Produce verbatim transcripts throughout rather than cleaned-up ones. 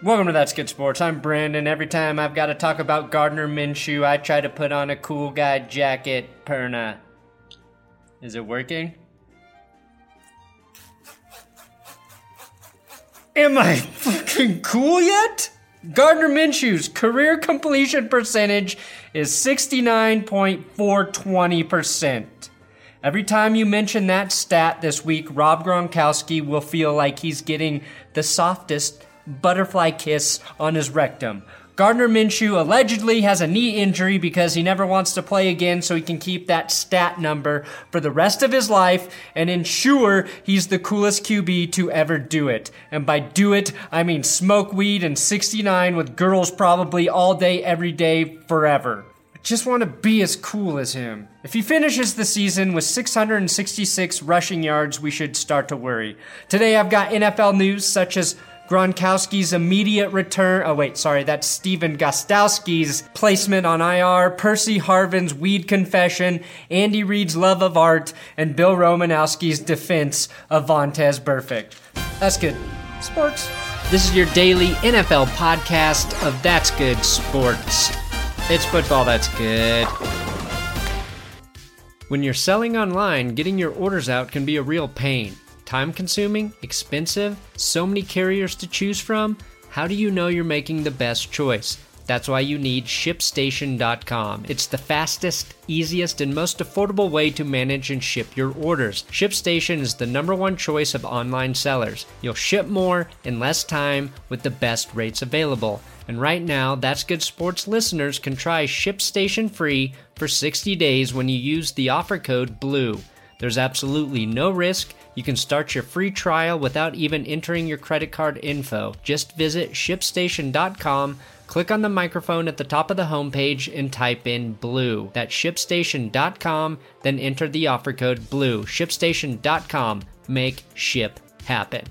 Welcome to That's Good Sports. I'm Brandon. Every time I've got to talk about Gardner Minshew, I try to put on a cool guy jacket. Perna. Is it working? Am I fucking cool yet? Gardner Minshew's career completion percentage is sixty-nine point four two percent. Every time you mention that stat this week, Rob Gronkowski will feel like he's getting the softest butterfly kiss on his rectum. Gardner Minshew allegedly has a knee injury because he never wants to play again so he can keep that stat number for the rest of his life and ensure he's the coolest Q B to ever do it. And by do it, I mean smoke weed and sixty-nine with girls probably all day, every day, forever. I just want to be as cool as him. If he finishes the season with six hundred sixty-six rushing yards, we should start to worry. Today I've got N F L news such as Gronkowski's immediate return. Oh, wait, sorry. That's Stephen Gostkowski's placement on I R, Percy Harvin's weed confession, Andy Reid's love of art, and Bill Romanowski's defense of Vontaze Burfict. That's good. Sports. This is your daily N F L podcast of That's Good Sports. It's football that's good. When you're selling online, getting your orders out can be a real pain. Time-consuming, expensive, so many carriers to choose from. How do you know you're making the best choice? That's why you need ShipStation dot com. It's the fastest, easiest, and most affordable way to manage and ship your orders. ShipStation is the number one choice of online sellers. You'll ship more in less time with the best rates available. And right now, That's Good Sports listeners can try ShipStation free for sixty days when you use the offer code BLUE. There's absolutely no risk. You can start your free trial without even entering your credit card info. Just visit ShipStation dot com, click on the microphone at the top of the homepage, and type in BLUE. That's ShipStation dot com, then enter the offer code BLUE. ShipStation dot com. Make ship happen.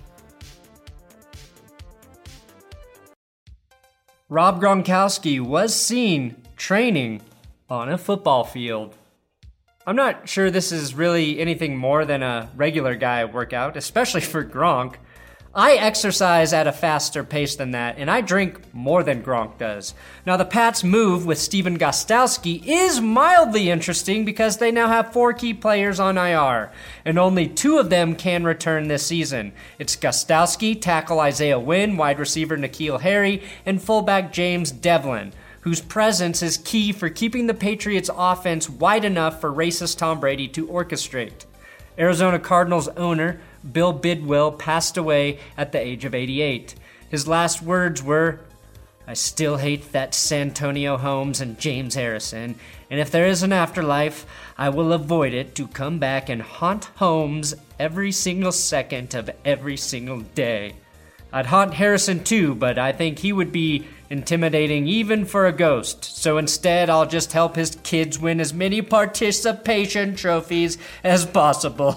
Rob Gronkowski was seen training on a football field. I'm not sure this is really anything more than a regular guy workout, especially for Gronk. I exercise at a faster pace than that, and I drink more than Gronk does. Now, the Pats' move with Stephen Gostkowski is mildly interesting because they now have four key players on I R, and only two of them can return this season. It's Gostkowski, tackle Isaiah Wynn, wide receiver N'Keal Harry, and fullback James Devlin, whose presence is key for keeping the Patriots' offense wide enough for racist Tom Brady to orchestrate. Arizona Cardinals owner Bill Bidwell passed away at the age of eighty-eight. His last words were, "I still hate that Santonio Holmes and James Harrison, and if there is an afterlife, I will avoid it to come back and haunt Holmes every single second of every single day. I'd haunt Harrison too, but I think he would be intimidating even for a ghost. So instead, I'll just help his kids win as many participation trophies as possible."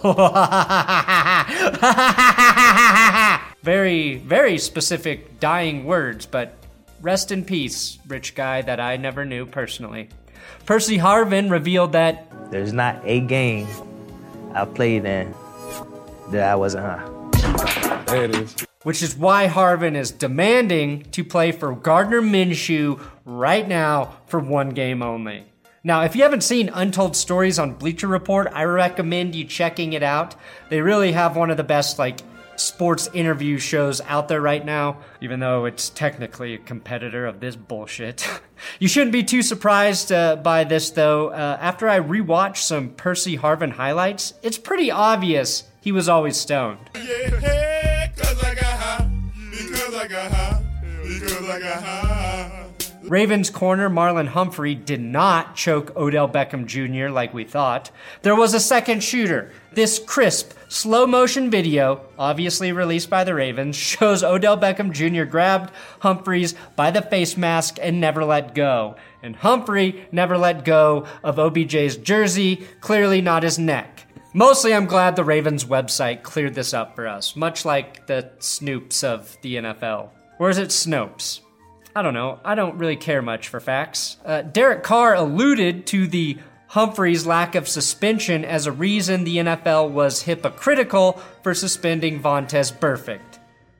Very, very specific dying words, but rest in peace, rich guy that I never knew personally. Percy Harvin revealed that there's not a game I played in that I wasn't high. There it is. Which is why Harvin is demanding to play for Gardner Minshew right now for one game only. Now, if you haven't seen Untold Stories on Bleacher Report, I recommend you checking it out. They really have one of the best, like, sports interview shows out there right now, even though it's technically a competitor of this bullshit. You shouldn't be too surprised uh, by this, though. Uh, after I rewatched some Percy Harvin highlights, it's pretty obvious he was always stoned. Yeah. Because I got high, because I got high, because I got high. Ravens corner Marlon Humphrey did not choke Odell Beckham Junior like we thought. There was a second shooter. This crisp, slow-motion video, obviously released by the Ravens, shows Odell Beckham Junior grabbed Humphreys by the face mask and never let go. And Humphrey never let go of O B J's jersey, clearly not his neck. Mostly, I'm glad the Ravens website cleared this up for us, much like the Snoops of the N F L. Or is it Snopes? I don't know. I don't really care much for facts. Uh, Derek Carr alluded to the Humphrey's lack of suspension as a reason the N F L was hypocritical for suspending Vontaze Burfict.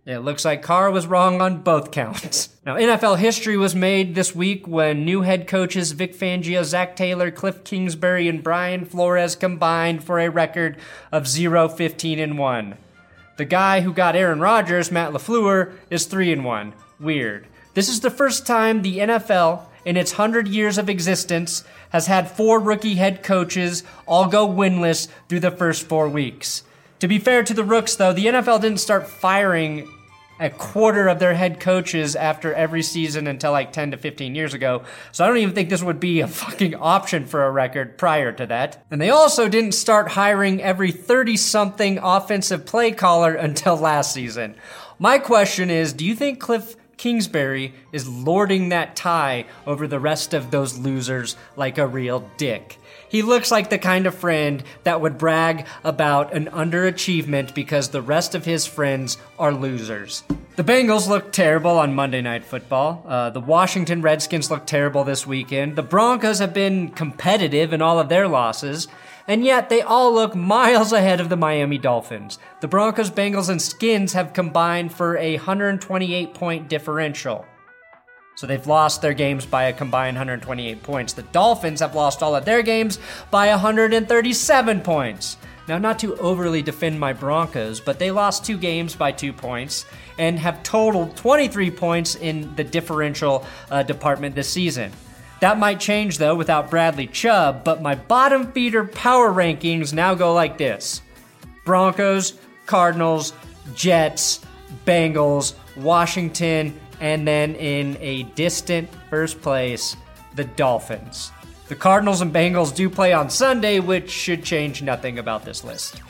It looks like Carr was wrong on both counts. Now, N F L history was made this week when new head coaches Vic Fangio, Zach Taylor, Cliff Kingsbury, and Brian Flores combined for a record of zero fifteen and one. The guy who got Aaron Rodgers, Matt LaFleur, is three and one. Weird. This is the first time the N F L, in its one hundred years of existence, has had four rookie head coaches all go winless through the first four weeks. To be fair to the Rooks, though, the N F L didn't start firing a quarter of their head coaches after every season until like ten to fifteen years ago, so I don't even think this would be a fucking option for a record prior to that. And they also didn't start hiring every thirty-something offensive play caller until last season. My question is, do you think Cliff Kingsbury is lording that tie over the rest of those losers like a real dick? He looks like the kind of friend that would brag about an underachievement because the rest of his friends are losers. The Bengals look terrible on Monday Night Football. Uh, the Washington Redskins look terrible this weekend. The Broncos have been competitive in all of their losses, and yet they all look miles ahead of the Miami Dolphins. The Broncos, Bengals, and Skins have combined for a one hundred twenty-eight point differential. So they've lost their games by a combined one hundred twenty-eight points. The Dolphins have lost all of their games by one hundred thirty-seven points. Now, not to overly defend my Broncos, but they lost two games by two points and have totaled twenty-three points in the differential uh, department this season. That might change, though, without Bradley Chubb, but my bottom feeder power rankings now go like this: Broncos, Cardinals, Jets, Bengals, Washington, and then in a distant first place, the Dolphins. The Cardinals and Bengals do play on Sunday, which should change nothing about this list.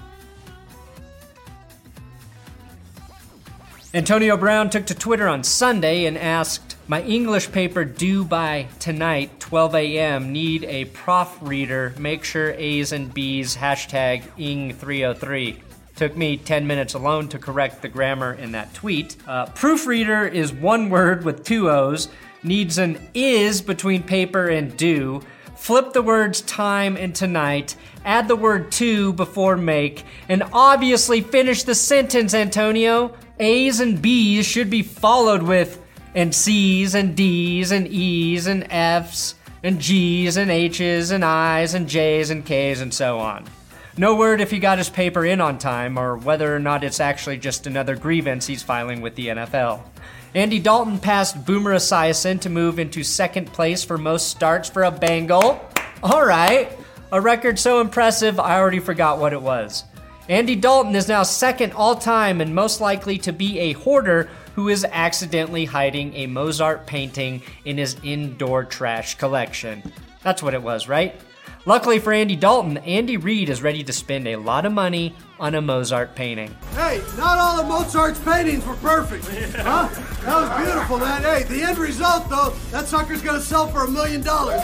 Antonio Brown took to Twitter on Sunday and asked, "My English paper due by tonight, twelve a.m. Need a proofreader. Make sure A's and B's, hashtag I N G three oh three. Took me ten minutes alone to correct the grammar in that tweet. Uh, proofreader is one word with two O's, needs an is between paper and due. Flip the words time and tonight, add the word to before make, and obviously finish the sentence, Antonio. A's and B's should be followed with and C's and D's and E's and F's and G's and H's and I's and J's and K's and so on." No word if he got his paper in on time or whether or not it's actually just another grievance he's filing with the N F L. Andy Dalton passed Boomer Esiason to move into second place for most starts for a Bengal. All right, a record so impressive I already forgot what it was. Andy Dalton is now second all-time and most likely to be a hoarder who is accidentally hiding a Mozart painting in his indoor trash collection. That's what it was, right? Luckily for Andy Dalton, Andy Reid is ready to spend a lot of money on a Mozart painting. Hey, not all of Mozart's paintings were perfect. Huh? That was beautiful, man. Hey, the end result, though, that sucker's gonna sell for a million dollars.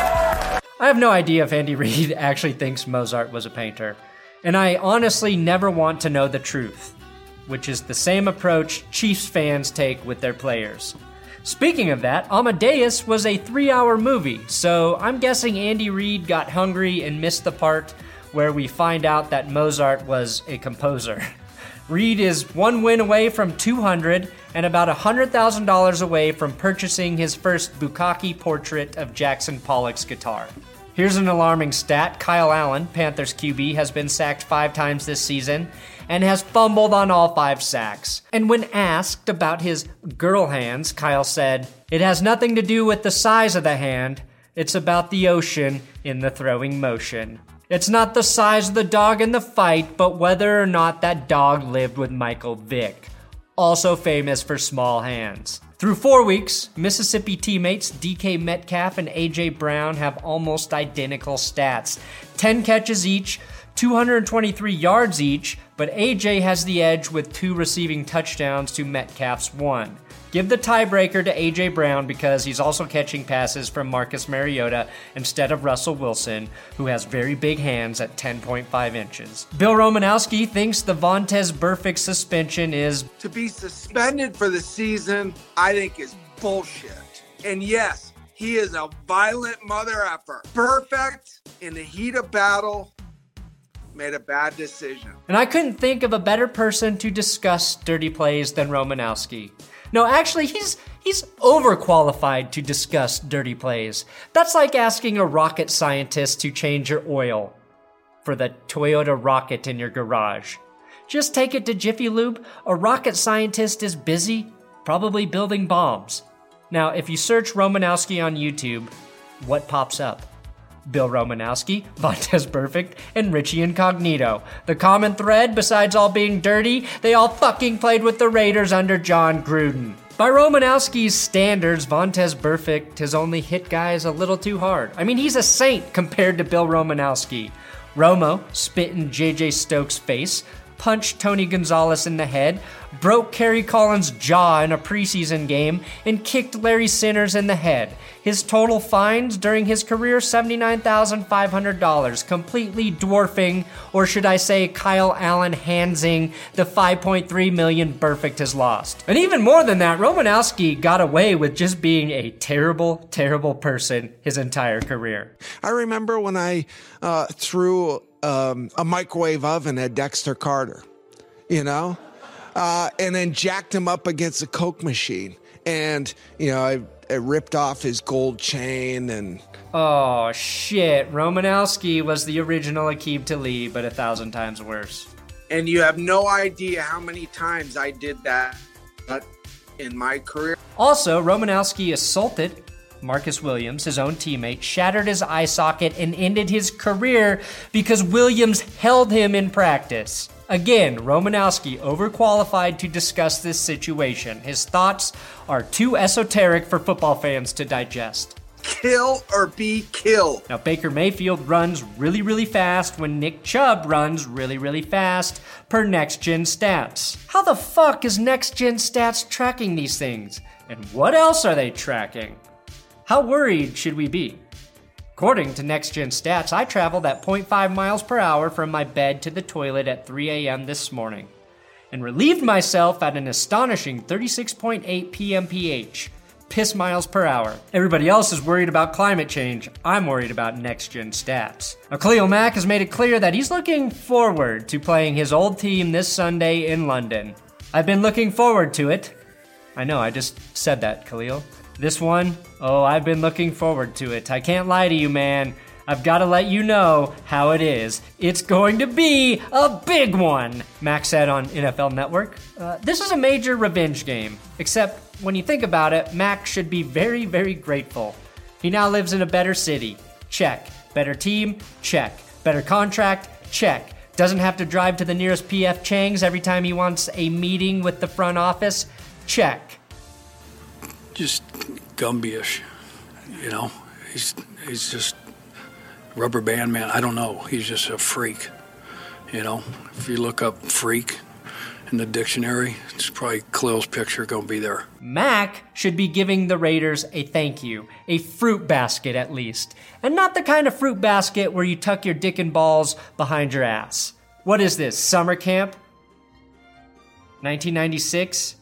I have no idea if Andy Reid actually thinks Mozart was a painter. And I honestly never want to know the truth, which is the same approach Chiefs fans take with their players. Speaking of that, Amadeus was a three-hour movie, so I'm guessing Andy Reid got hungry and missed the part where we find out that Mozart was a composer. Reid is one win away from two hundred and about one hundred thousand dollars away from purchasing his first Bukkake portrait of Jackson Pollock's guitar. Here's an alarming stat. Kyle Allen, Panthers Q B, has been sacked five times this season and has fumbled on all five sacks. And when asked about his girl hands, Kyle said, "It has nothing to do with the size of the hand. It's about the ocean in the throwing motion. It's not the size of the dog in the fight, but whether or not that dog lived with Michael Vick, also famous for small hands." Through four weeks, Mississippi teammates D K Metcalf and A J Brown have almost identical stats. ten catches each, two hundred twenty-three yards each, but A J has the edge with two receiving touchdowns to Metcalf's one. Give the tiebreaker to A J Brown because he's also catching passes from Marcus Mariota instead of Russell Wilson, who has very big hands at ten point five inches. Bill Romanowski thinks the Vontaze Burfict suspension is to be suspended for the season, I think is bullshit. And yes, he is a violent mother effer. Perfect in the heat of battle. made a bad decision. And I couldn't think of a better person to discuss dirty plays than Romanowski. No, actually, he's he's overqualified to discuss dirty plays. That's like asking a rocket scientist to change your oil for the Toyota rocket in your garage. Just take it to Jiffy Lube. A rocket scientist is busy, probably building bombs. Now, if you search Romanowski on YouTube, what pops up? Bill Romanowski, Vontaze Burfict, and Richie Incognito. The common thread, besides all being dirty, they all fucking played with the Raiders under John Gruden. By Romanowski's standards, Vontaze Burfict has only hit guys a little too hard. I mean, he's a saint compared to Bill Romanowski. Romo spit in J J Stokes' face, punched Tony Gonzalez in the head, broke Kerry Collins' jaw in a preseason game, and kicked Larry Sinners in the head. His total fines during his career, seventy-nine thousand five hundred dollars, completely dwarfing, or should I say Kyle Allen handsing, the five point three million dollars Burfict has lost. And even more than that, Romanowski got away with just being a terrible, terrible person his entire career. I remember when I uh, threw um, a microwave oven at Dexter Carter, you know? Uh, and then jacked him up against a Coke machine. And, you know, I, I ripped off his gold chain and... Oh, shit. Romanowski was the original Aqib Talib, but a thousand times worse. And you have no idea how many times I did that in my career. Also, Romanowski assaulted Marcus Williams, his own teammate, shattered his eye socket, and ended his career because Williams held him in practice. Again, Romanowski overqualified to discuss this situation. His thoughts are too esoteric for football fans to digest. Kill or be killed. Now, Baker Mayfield runs really, really fast when Nick Chubb runs really, really fast per Next Gen Stats. How the fuck is Next Gen Stats tracking these things? And what else are they tracking? How worried should we be? According to Next Gen Stats, I traveled at zero point five miles per hour from my bed to the toilet at three a.m. this morning, and relieved myself at an astonishing thirty-six point eight p m p h, piss miles per hour. Everybody else is worried about climate change. I'm worried about Next Gen Stats. Now, Khalil Mack has made it clear that he's looking forward to playing his old team this Sunday in London. I've been looking forward to it. I know, I just said that, Khalil. This one, oh, I've been looking forward to it. I can't lie to you, man. I've got to let you know how it is. It's going to be a big one, Mac said on N F L Network. Uh, this is a major revenge game, except when you think about it, Mac should be very, very grateful. He now lives in a better city. Check. Better team? Check. Better contract? Check. Doesn't have to drive to the nearest P F Chang's every time he wants a meeting with the front office? Check. Just Gumby-ish, you know. He's he's just rubber band man. I don't know. He's just a freak, you know. If you look up freak in the dictionary, it's probably Khalil's picture going to be there. Mac should be giving the Raiders a thank you, a fruit basket at least, and not the kind of fruit basket where you tuck your dick and balls behind your ass. What is this, summer camp? nineteen ninety-six?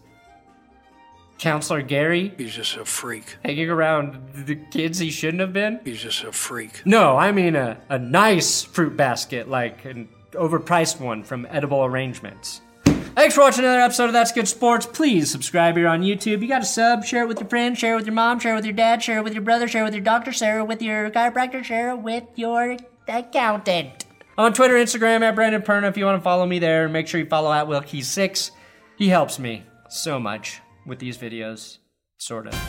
Counselor Gary? He's just a freak. Hanging around the kids he shouldn't have been? He's just a freak. No, I mean a, a nice fruit basket, like an overpriced one from Edible Arrangements. Thanks for watching another episode of That's Good Sports. Please subscribe here on YouTube. You got a sub, share it with your friends, share it with your mom, share it with your dad, share it with your brother, share it with your doctor, share it with your chiropractor, share it with your accountant. I'm on Twitter, Instagram, at Brandon Perna. If you want to follow me there, make sure you follow at Will Keys six. He helps me so much with these videos, sort of.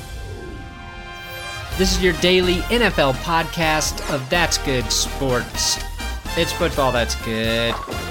This is your daily N F L podcast of That's Good Sports. It's football that's good.